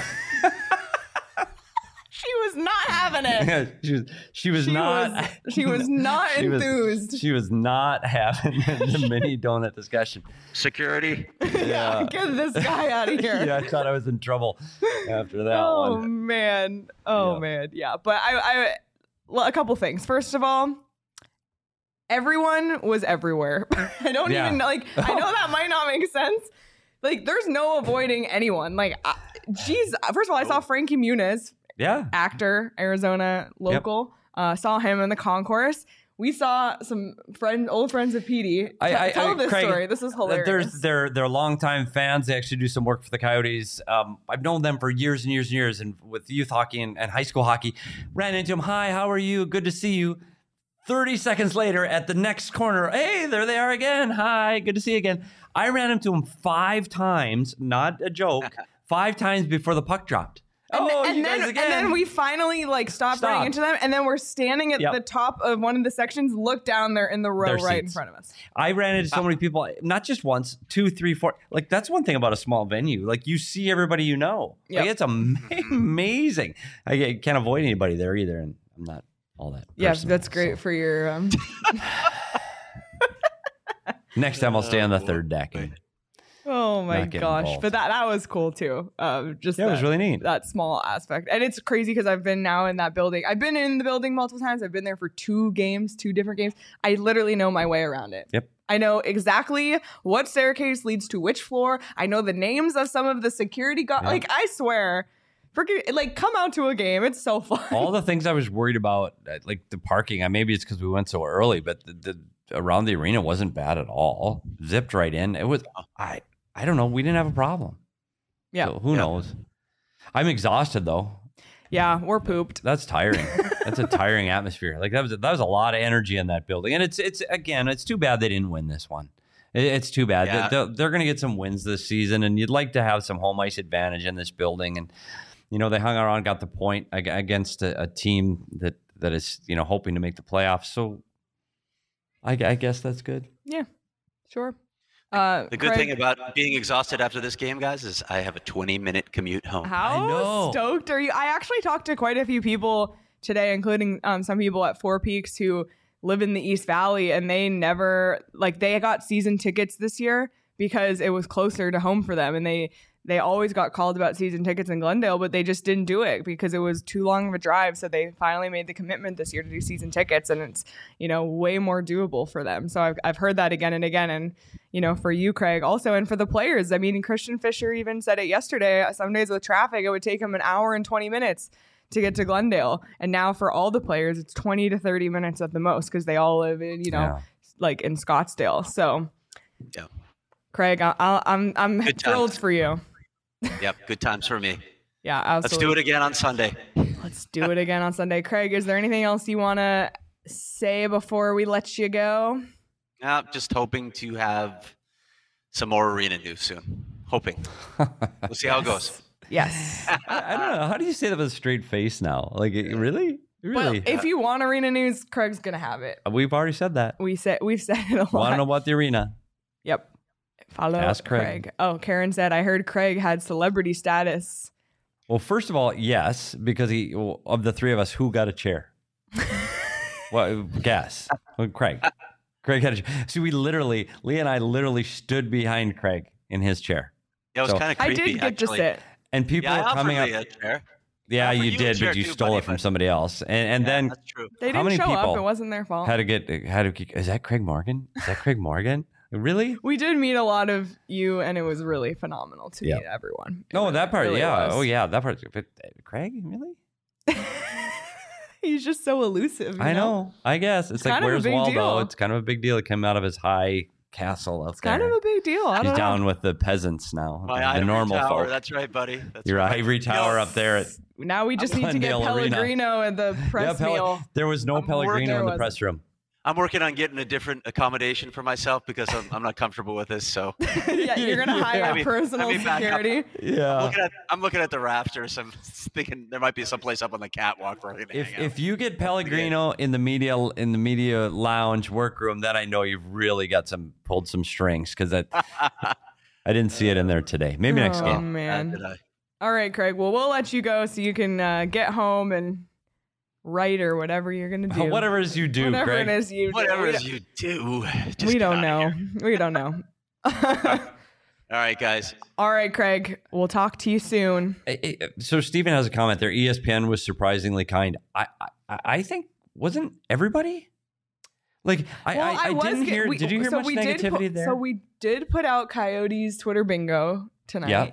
She was not having it. she was not. She was not enthused. She was not having the mini donut discussion. Security. Yeah. Get this guy out of here. Yeah, I thought I was in trouble after that Oh one. man. Yeah. But well, a couple things. First of all, everyone was everywhere. I don't even like. I know that might not make sense. Like, there's no avoiding anyone. Like, geez. First of all, I saw Frankie Muniz, actor, Arizona local. Saw him in the concourse. We saw some old friends of Petey. Tell this Craig, story. This is hilarious. They're longtime fans. They actually do some work for the Coyotes. I've known them for years and years and years, and with youth hockey and high school hockey. Ran into them. Hi, how are you? Good to see you. 30 seconds later, at the next corner, hey, there they are again. Hi, good to see you again. I ran into them 5 times, not a joke, 5 times before the puck dropped. And then we finally stopped running into them, and then we're standing at the top of one of the sections. Look down there in the row right in front of us. I ran into so many people, not just once, 2, 3, 4. Like, that's one thing about a small venue. Like, you see everybody you know. Like, it's amazing. I can't avoid anybody there either, and I'm not all that. Yeah, that's great for your. Next time I'll stay on the third deck. Oh my gosh! involved. But that was cool too. It was really neat. That small aspect, and it's crazy because I've been now in that building. I've been in the building multiple times. I've been there for 2 different games. I literally know my way around it. Yep. I know exactly what staircase leads to which floor. I know the names of some of the security guards. Yeah. Like, I swear, come out to a game. It's so fun. All the things I was worried about, like the parking. Maybe it's because we went so early, but the around the arena wasn't bad at all. Zipped right in. It was. I don't know. We didn't have a problem. Yeah. So who knows? I'm exhausted though. Yeah, we're pooped. That's tiring. That's a tiring atmosphere. Like that was a lot of energy in that building. And it's too bad they didn't win this one. It's too bad. Yeah. They're going to get some wins this season, and you'd like to have some home ice advantage in this building. And they hung around, got the point against a team that is, hoping to make the playoffs. So I guess that's good. Yeah, sure. The good Craig, thing about being exhausted after this game, guys, is I have a 20-minute commute home. how know. stoked are you? I actually talked to quite a few people today, including some people at Four Peaks who live in the East Valley, and they never they got season tickets this year because it was closer to home for them, and they always got called about season tickets in Glendale, but they just didn't do it because it was too long of a drive. So they finally made the commitment this year to do season tickets, and it's, way more doable for them. So I've heard that again and again. And, for you, Craig, also, and for the players, I mean, Christian Fisher even said it yesterday. Some days with traffic, it would take him an hour and 20 minutes to get to Glendale. And now for all the players, it's 20 to 30 minutes at the most because they all live in, in Scottsdale. So, Yeah. Craig, I'm Good thrilled times. for you. Yep, good times for me. Yeah, absolutely. Let's do it again on Sunday. Let's do it again on Sunday. Craig, is there anything else you want to say before we let you go? Just hoping to have some more arena news soon. Hoping. We'll see how it goes. Yes. I don't know. How do you say that with a straight face now? Really? Well, if you want arena news, Craig's going to have it. We've already said that. We've said it a lot. Want to know about the arena? Yep. Follow Ask Craig. Oh, Karen said, I heard Craig had celebrity status. Well, first of all, yes, because of the three of us, who got a chair? Well, guess. Well, Craig. Craig had a chair. See, Leah and I literally stood behind Craig in his chair. Yeah, it was So- kind of I creepy, did get actually. to sit. And people Yeah, I were coming offered up. Leah a chair. Yeah, offered you you a did, chair but you too, stole buddy, it from but- somebody else. And Yeah, then that's true. They How didn't many show up. people It wasn't their fault. is that Craig Morgan? Is that Craig Morgan? Really? We did meet a lot of you, and it was really phenomenal to Yeah. meet everyone. It No, really- that part, really yeah. was. Oh, yeah, that part. But Craig, really? He's just so elusive. you I know. I guess it's like, kind of a where's big Waldo? deal. It's kind of a big deal. It came out of his high castle up It's kind of a big deal. I He's don't know. down with the peasants now, My the ivory normal tower. folk. That's right, buddy. That's Your right. ivory tower Yo, up there at Now we just need to get Glendale Arena. Pellegrino at the press meal. There was no I'm Pellegrino in the working- press room. I'm working on getting a different accommodation for myself because I'm not comfortable with this. So Yeah, you're gonna hire Let me- personal let me back up. security. Yeah. I'm looking at the rafters. I'm thinking there might be some place up on the catwalk where I can hang out. If you get Pellegrino in the media lounge workroom, then I know you've really got pulled some strings because that I didn't see it in there today. Maybe next Oh, game. man. Did I? All right, Craig. Well, we'll let you go so you can get home and write or whatever you're gonna do. Whatever it is you do, Whatever Craig. it is you do. Whatever We it is don't- you do, just we get don't outta know. here. We don't know. All right, guys. All right, Craig. We'll talk to you soon. So Steven has a comment there. ESPN was surprisingly kind. I think wasn't everybody? Like I was didn't get- hear. we- Did you hear so much we did negativity put- there? So we did put out Coyotes Twitter bingo tonight.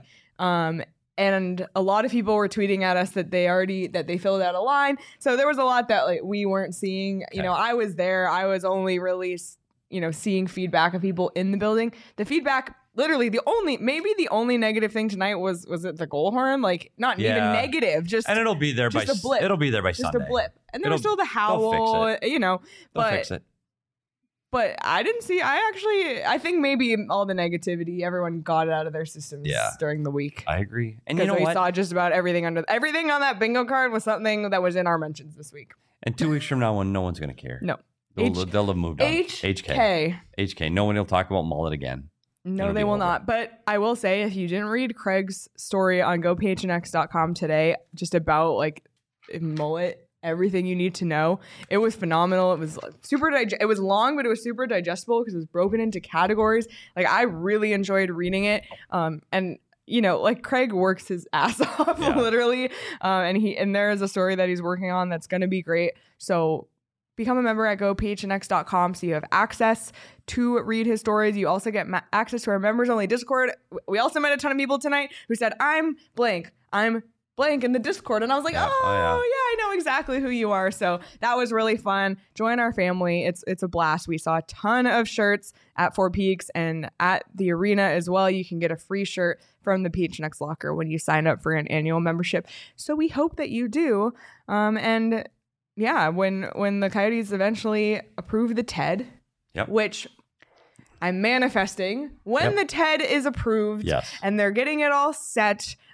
And a lot of people were tweeting at us that they filled out a line. So there was a lot that we weren't seeing. You know, I was there. I was only really seeing feedback of people in the building. The feedback, literally the only negative thing tonight was it the goal horn? Like not even Yeah. negative, just and it'll be there by just a blip. It'll be there by just Sunday. a blip. And there was It'll- still the howl, they'll fix you know. They'll But fix it. but I didn't see. I think maybe all the negativity, everyone got it out of their systems Yeah. during the week. I agree. And you Because know we what? saw just about everything on that bingo card was something that was in our mentions this week. And 2 weeks from now, when no one's going to care. No. They'll have moved on. HK. No one will talk about mullet again. No, It'll they be will over. not. But I will say, if you didn't read Craig's story on gophnx.com today, just about mullet, everything you need to know, it was phenomenal. It was it was long, but it was super digestible because it was broken into categories. I really enjoyed reading it. And Craig works his ass off, Yeah. literally. And there is a story that he's working on that's going to be great. So become a member at gophnx.com so you have access to read his stories. You also get access to our members only Discord. We also met a ton of people tonight who said, I'm blank in the Discord. And I was like, Yeah. oh yeah, I know exactly who you are. So that was really fun. Join our family. It's a blast. We saw a ton of shirts at Four Peaks and at the arena as well. You can get a free shirt from the PHNX locker when you sign up for an annual membership. So we hope that you do. And yeah, when the Coyotes eventually approve the TED, Yep. which I'm manifesting when Yep. the TED is approved Yes. and they're getting it all set,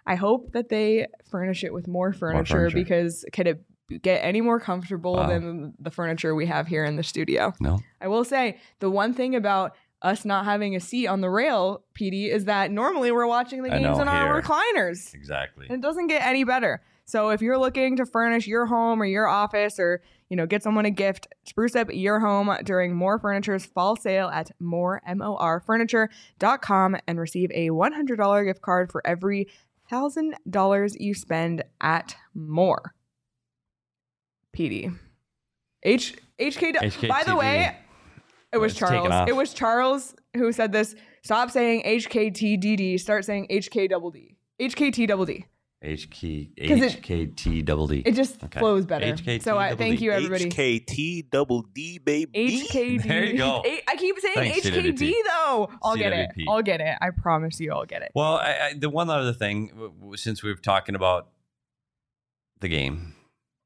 I hope that they furnish it with more furniture. Because could it get any more comfortable than the furniture we have here in the studio? No. I will say the one thing about us not having a seat on the rail, PD, is that normally we're watching the games in our recliners. Exactly. And it doesn't get any better. So if you're looking to furnish your home or your office, or get someone a gift, spruce up your home during More Furniture's fall sale at morfurniture.com and receive a $100 gift card for every $1,000 you spend at More. PD. HK. By the way, it was Charles. It was Charles who said this. Stop saying HKTDD. Start saying HKDD. HKTDD. HKTDD. It just flows better. So thank you, everybody. HKTDD, baby. HKD. There you go. I keep saying Thanks, HKD CWP. Though. I'll get it. I promise you, I'll get it. Well, the one other thing, since we were talking about the game,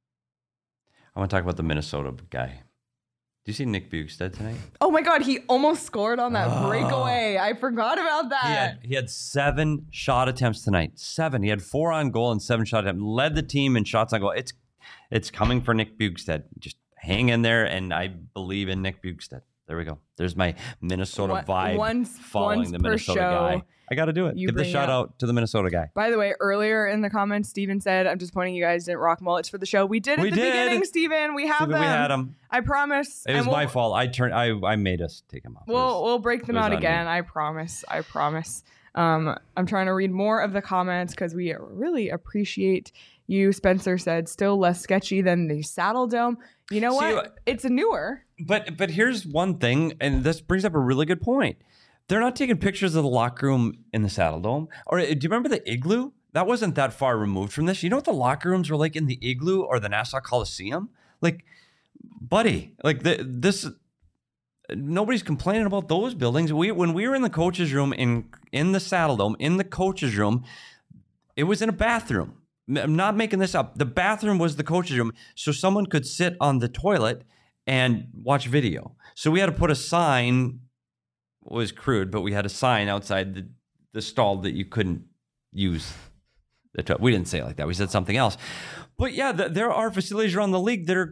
I want to talk about the Minnesota guy. Did you see Nick Bjugstad tonight? Oh my God, he almost scored on that breakaway. I forgot about that. He had 7 shot attempts tonight. 7. He had 4 on goal and 7 shot attempts. Led the team in shots on goal. It's coming for Nick Bjugstad. Just hang in there, and I believe in Nick Bjugstad. There we go. There's my Minnesota vibe following the Minnesota guy. I got to do it. Give the shout out to the Minnesota guy. By the way, earlier in the comments, Steven said, I'm just pointing you guys didn't rock mullets for the show. We did at the beginning, Steven. We have them. We had them. I promise. It was my fault. I made us take them off. We'll break them out again. I promise. I'm trying to read more of the comments because we really appreciate you. Spencer said, still less sketchy than the Saddle Dome. You know what? It's newer. But here's one thing, and this brings up a really good point. They're not taking pictures of the locker room in the Saddle Dome. Or do you remember the Igloo? That wasn't that far removed from this. You know what the locker rooms were like in the Igloo or the Nassau Coliseum? Like, buddy, like this. Nobody's complaining about those buildings. When we were in the coaches' room in the Saddle Dome, in the coaches' room, it was in a bathroom. I'm not making this up. The bathroom was the coaches' room, so someone could sit on the toilet and watch video. So we had to put a sign. It was crude, but we had a sign outside the stall that you couldn't use the toilet. We didn't say it like that. We said something else. But yeah, there are facilities around the league that are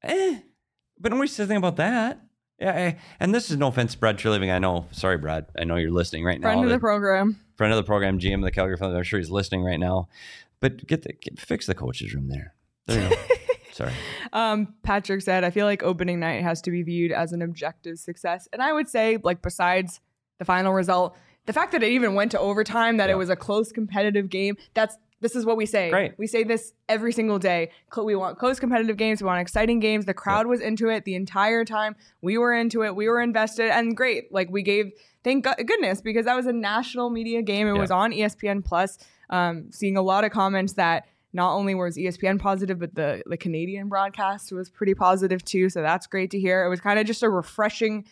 but nobody says anything about that. Yeah, and this is no offense, Brad Treliving. I know. Sorry, Brad. I know you're listening right now. Friend of the program, GM of the Calgary Thunder. I'm sure he's listening right now. But fix the coach's room there. There you go. Sorry. Patrick said, I feel like opening night has to be viewed as an objective success. And I would say, like, besides the final result, the fact that it even went to overtime, that it was a close competitive game, this is what we say. Great. We say this every single day. We want close competitive games. We want exciting games. The crowd was into it the entire time. We were into it. We were invested. And great. Like, we gave, thank goodness, because that was a national media game. It was on ESPN Plus. Seeing a lot of comments that not only was ESPN positive, but the Canadian broadcast was pretty positive too. So that's great to hear. It was kind of just a refreshing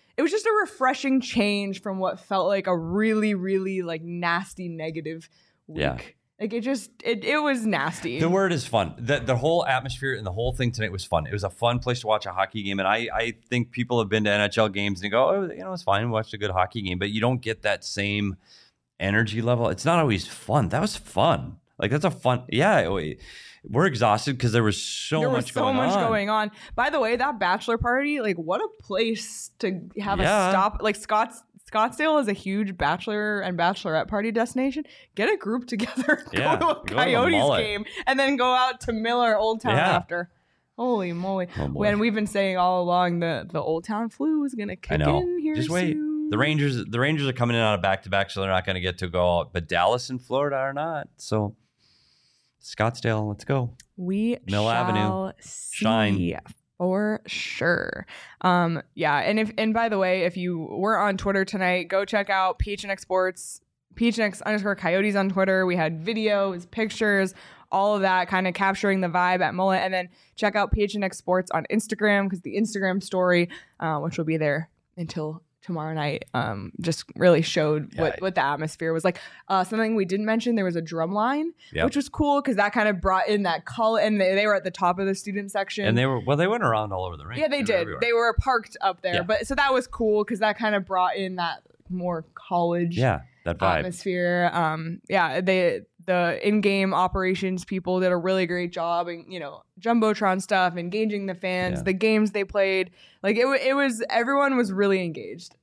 change from what felt like a really, really like nasty negative week. Yeah. Like it was nasty. The word is fun. The whole atmosphere and the whole thing tonight was fun. It was a fun place to watch a hockey game. And I think people have been to NHL games and go, oh, it's fine. We watched a good hockey game, but you don't get that same energy level. It's not always fun. That was fun. Like, that's a fun, we're exhausted because there was so much going on. By the way, that bachelor party, like, what a place to have a stop. Like, Scottsdale is a huge bachelor and bachelorette party destination. Get a group together, go to a Coyotes game, and then go out to Miller, Old Town after. Holy moly. When we've been saying all along the Old Town flu is going to kick in here Just wait. soon. The Rangers are coming in on a back-to-back, so they're not going to get to go out. But Dallas and Florida are not. So Scottsdale, let's go. We Mill Avenue, shine for sure. And by the way, if you were on Twitter tonight, go check out PHNX Sports, PHNX_Coyotes on Twitter. We had videos, pictures, all of that kind of capturing the vibe at Mullet. And then check out PHNX Sports on Instagram, because the Instagram story, which will be there until tomorrow night, just really showed what the atmosphere was like. Something we didn't mention, there was a drum line, which was cool because that kind of brought in that color, and they were at the top of the student section. And they went around all over the rink. Yeah, they did. They were parked up there. But so that was cool because that kind of brought in that more college that vibe. atmosphere. the in-game operations people did a really great job, and Jumbotron stuff, engaging the fans, the games they played. Like it was everyone was really engaged.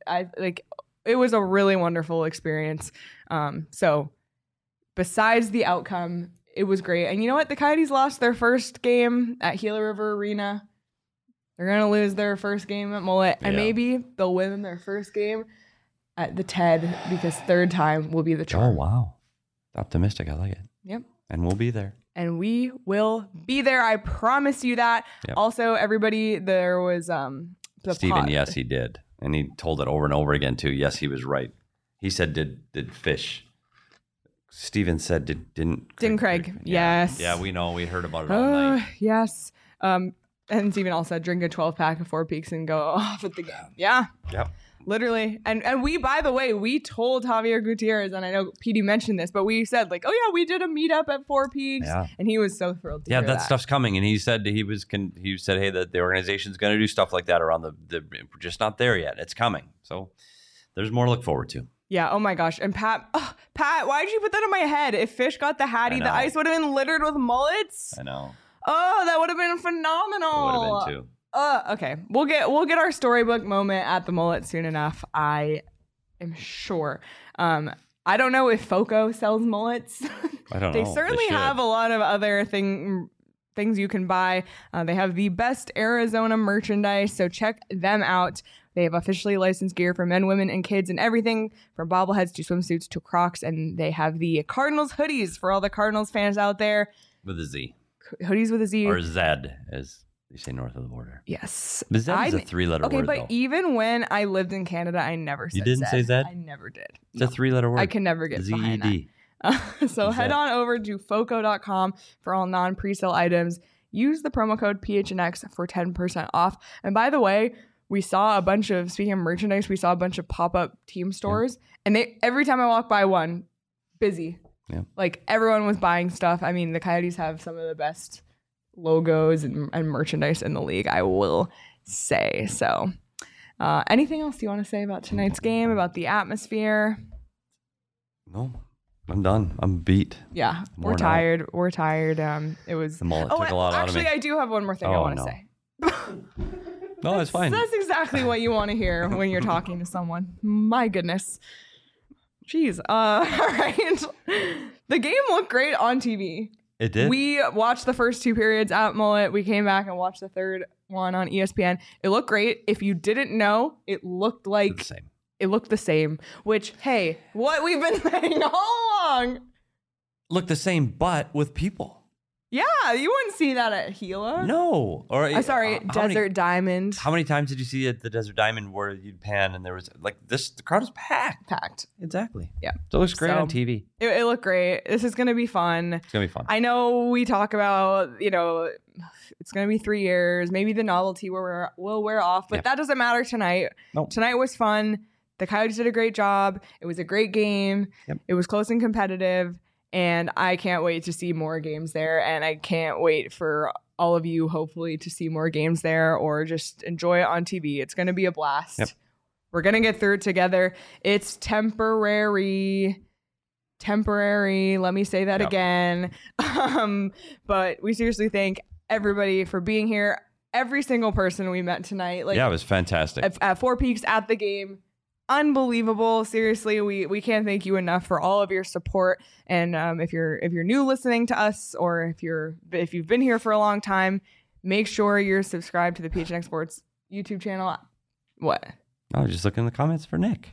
It was a really wonderful experience. So besides the outcome, it was great. And you know what? The Coyotes lost their first game at Gila River Arena. They're going to lose their first game at Mullet. And maybe they'll win their first game at the TED, because third time will be the charm. Oh, wow. Optimistic. I like it. Yep. And we'll be there. And we will be there. I promise you that. Yep. Also, everybody, there was Steven, yes, he did. And he told it over and over again, too. Yes, he was right. He said, did fish. Steven said, didn't Craig. Yes. Yeah, we know. We heard about it all night. Yes. And Steven also said, drink a 12-pack of Four Peaks and go off at the game. Yeah. Yep. Literally. And we, by the way, we told Javier Gutierrez, and I know PD mentioned this, but we said like, oh yeah, we did a meetup at Four Peaks. Yeah. And he was so thrilled to hear that stuff's coming. And he said he said, hey, that the organization's going to do stuff like that around the we're just not there yet. It's coming. So there's more to look forward to. Yeah. Oh my gosh. And Pat, why did you put that on my head? If Fish got the Hattie, the ice would have been littered with mullets. I know. Oh, that would have been phenomenal. It would have been too. Okay. We'll get our storybook moment at the Mullet soon enough. I am sure. I don't know if Foco sells mullets. I don't know. They certainly have a lot of other things you can buy. They have the best Arizona merchandise, so check them out. They have officially licensed gear for men, women, and kids, and everything from bobbleheads to swimsuits to Crocs. And they have the Cardinals hoodies for all the Cardinals fans out there. With a Z. Hoodies with a Z. Or Zed, as they say north of the border. Yes. But Zed is a three-letter word, but even when I lived in Canada, I never said Zed. You didn't say Zed? I never did. It's a three-letter word. I can never get behind that. So head on over to foco.com for all non-presale items. Use the promo code PHNX for 10% off. And by the way, we saw a bunch of, speaking of merchandise, we saw a bunch of pop-up team stores. And every time I walk by one, busy. Yeah. Like everyone was buying stuff. I mean, the Coyotes have some of the best logos and merchandise in the league, I will say. So anything else you want to say about tonight's game, about the atmosphere? No, I'm done. I'm beat. Yeah, we're tired. We're tired. It was the Mullet took a lot out of me. Actually, I do have one more thing I want to say. No, it's fine. That's exactly what you want to hear when you're talking to someone. My goodness. Jeez. All right. The game looked great on TV. It did. We watched the first two periods at Mullet. We came back and watched the third one on ESPN. It looked great. If you didn't know, it looked like the same. It looked the same. Which, hey, what we've been saying all along. Looked the same, but with people. Yeah, you wouldn't see that at Gila. No. Or Desert Diamond. How many times did you see at the Desert Diamond where you'd pan and there was like this? The crowd was packed. Exactly. Yeah. So it looks great on TV. It looked great. This is going to be fun. It's going to be fun. I know we talk about, it's going to be 3 years. Maybe the novelty will wear off, but that doesn't matter tonight. Nope. Tonight was fun. The Coyotes did a great job. It was a great game. Yep. It was close and competitive. And I can't wait to see more games there. And I can't wait for all of you, hopefully, to see more games there or just enjoy it on TV. It's going to be a blast. Yep. We're going to get through it together. It's temporary. Let me say that again. But we seriously thank everybody for being here. Every single person we met tonight. It was fantastic. At Four Peaks at the game. Unbelievable. Seriously, we can't thank you enough for all of your support. And if you're new listening to us, or if you've been here for a long time, make sure you're subscribed to the PHNX Sports YouTube channel. What? I was just looking in the comments for Nick.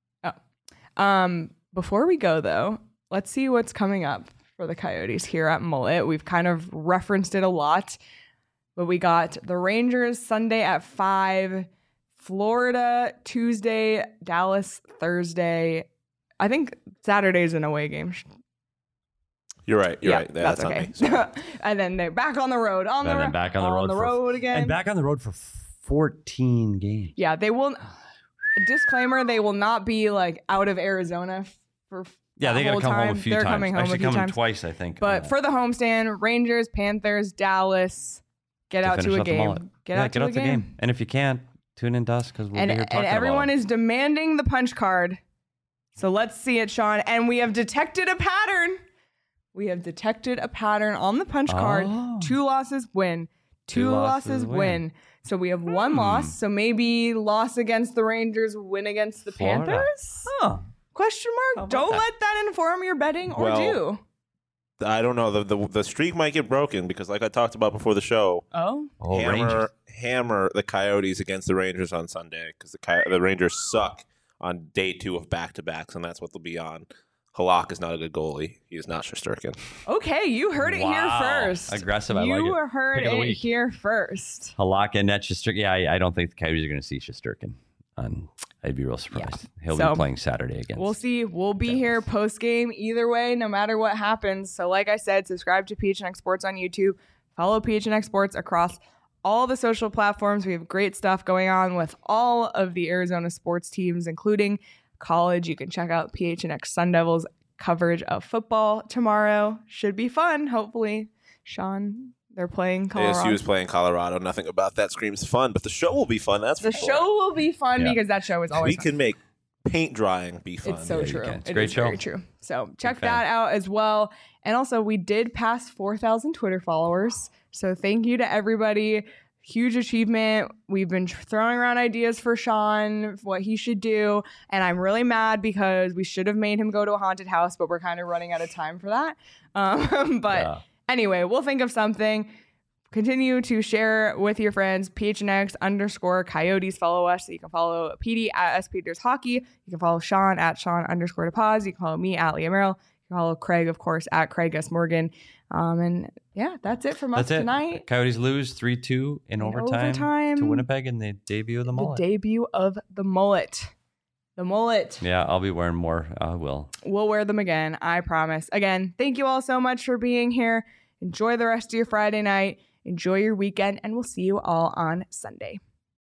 Oh. Before we go though, let's see what's coming up for the Coyotes here at Mullet. We've kind of referenced it a lot, but we got the Rangers Sunday at 5. Florida Tuesday, Dallas Thursday. I think Saturday's an away game. You're right. You're right. That's okay. And then they're back on the road. Back on the road again. And back on the road for 14 games. Yeah, they will. Disclaimer: they will not be like out of Arizona for. Yeah, they got to come home a few times. They're coming home Actually, a few times. twice, I think. But for the homestand, Rangers, Panthers, Dallas, get out to a game. Get out to the game. And if you can't, tune in to us because we'll be here talking and everyone about is demanding the punch card. So let's see it, Sean. And we have detected a pattern. We have detected a pattern on the punch card. Oh. 2 losses win. Two losses win. So we have 1 loss. So maybe loss against the Rangers, win against the Florida. Panthers? Huh. Question How mark. about Don't that? let that inform your betting or Well, do. I don't know. The streak might get broken because, like I talked about before the show, Oh. Oh, Rangers. hammer the Coyotes against the Rangers on Sunday because the Rangers suck on day 2 of back-to-backs, and that's what they'll be on. Halak is not a good goalie. He is not Shesterkin. Okay, you heard it here Wow. first. Aggressive, I like You it. heard Pick of the it week. here first. Halak and Shesterkin. Yeah, I don't think the Coyotes are going to see Shesterkin. I'd be real surprised. He'll So, be playing Saturday against. We'll see. We'll be here post game either way, no matter what happens. So, like I said, subscribe to PHNX Sports on YouTube. Follow PHNX Sports across all the social platforms. We have great stuff going on with all of the Arizona sports teams, including college. You can check out PHNX Sun Devils coverage of football tomorrow. Should be fun, hopefully. Sean, they're playing Colorado. ASU is playing Colorado. Nothing about that screams fun, but the show will be fun. That's The for sure. show will be fun Yeah. because that show is always We fun. can make paint drying be fun. It's so you true. can. It's a It great is very show. true. So check fan. that out as well. And also, we did pass 4,000 Twitter followers. So thank you to everybody. Huge achievement. We've been throwing around ideas for Sean, what he should do. And I'm really mad because we should have made him go to a haunted house, but we're kind of running out of time for that. But Yeah. anyway, we'll think of something. Continue to share with your friends. PHNX_Coyotes. Follow us. So you can follow PD at SPeters Hockey. You can follow Sean at Sean_DePaz. You can follow me at Leah Merrill. You can follow Craig, of course, at Craig S. Morgan. And yeah, that's it from us That's it. tonight. Coyotes lose 3-2 in overtime overtime. to Winnipeg in the debut of the The mullet. debut of the mullet. The mullet. Yeah, I'll be wearing more. I will. We'll wear them again. I promise. Again, thank you all so much for being here. Enjoy the rest of your Friday night. Enjoy your weekend, and we'll see you all on Sunday.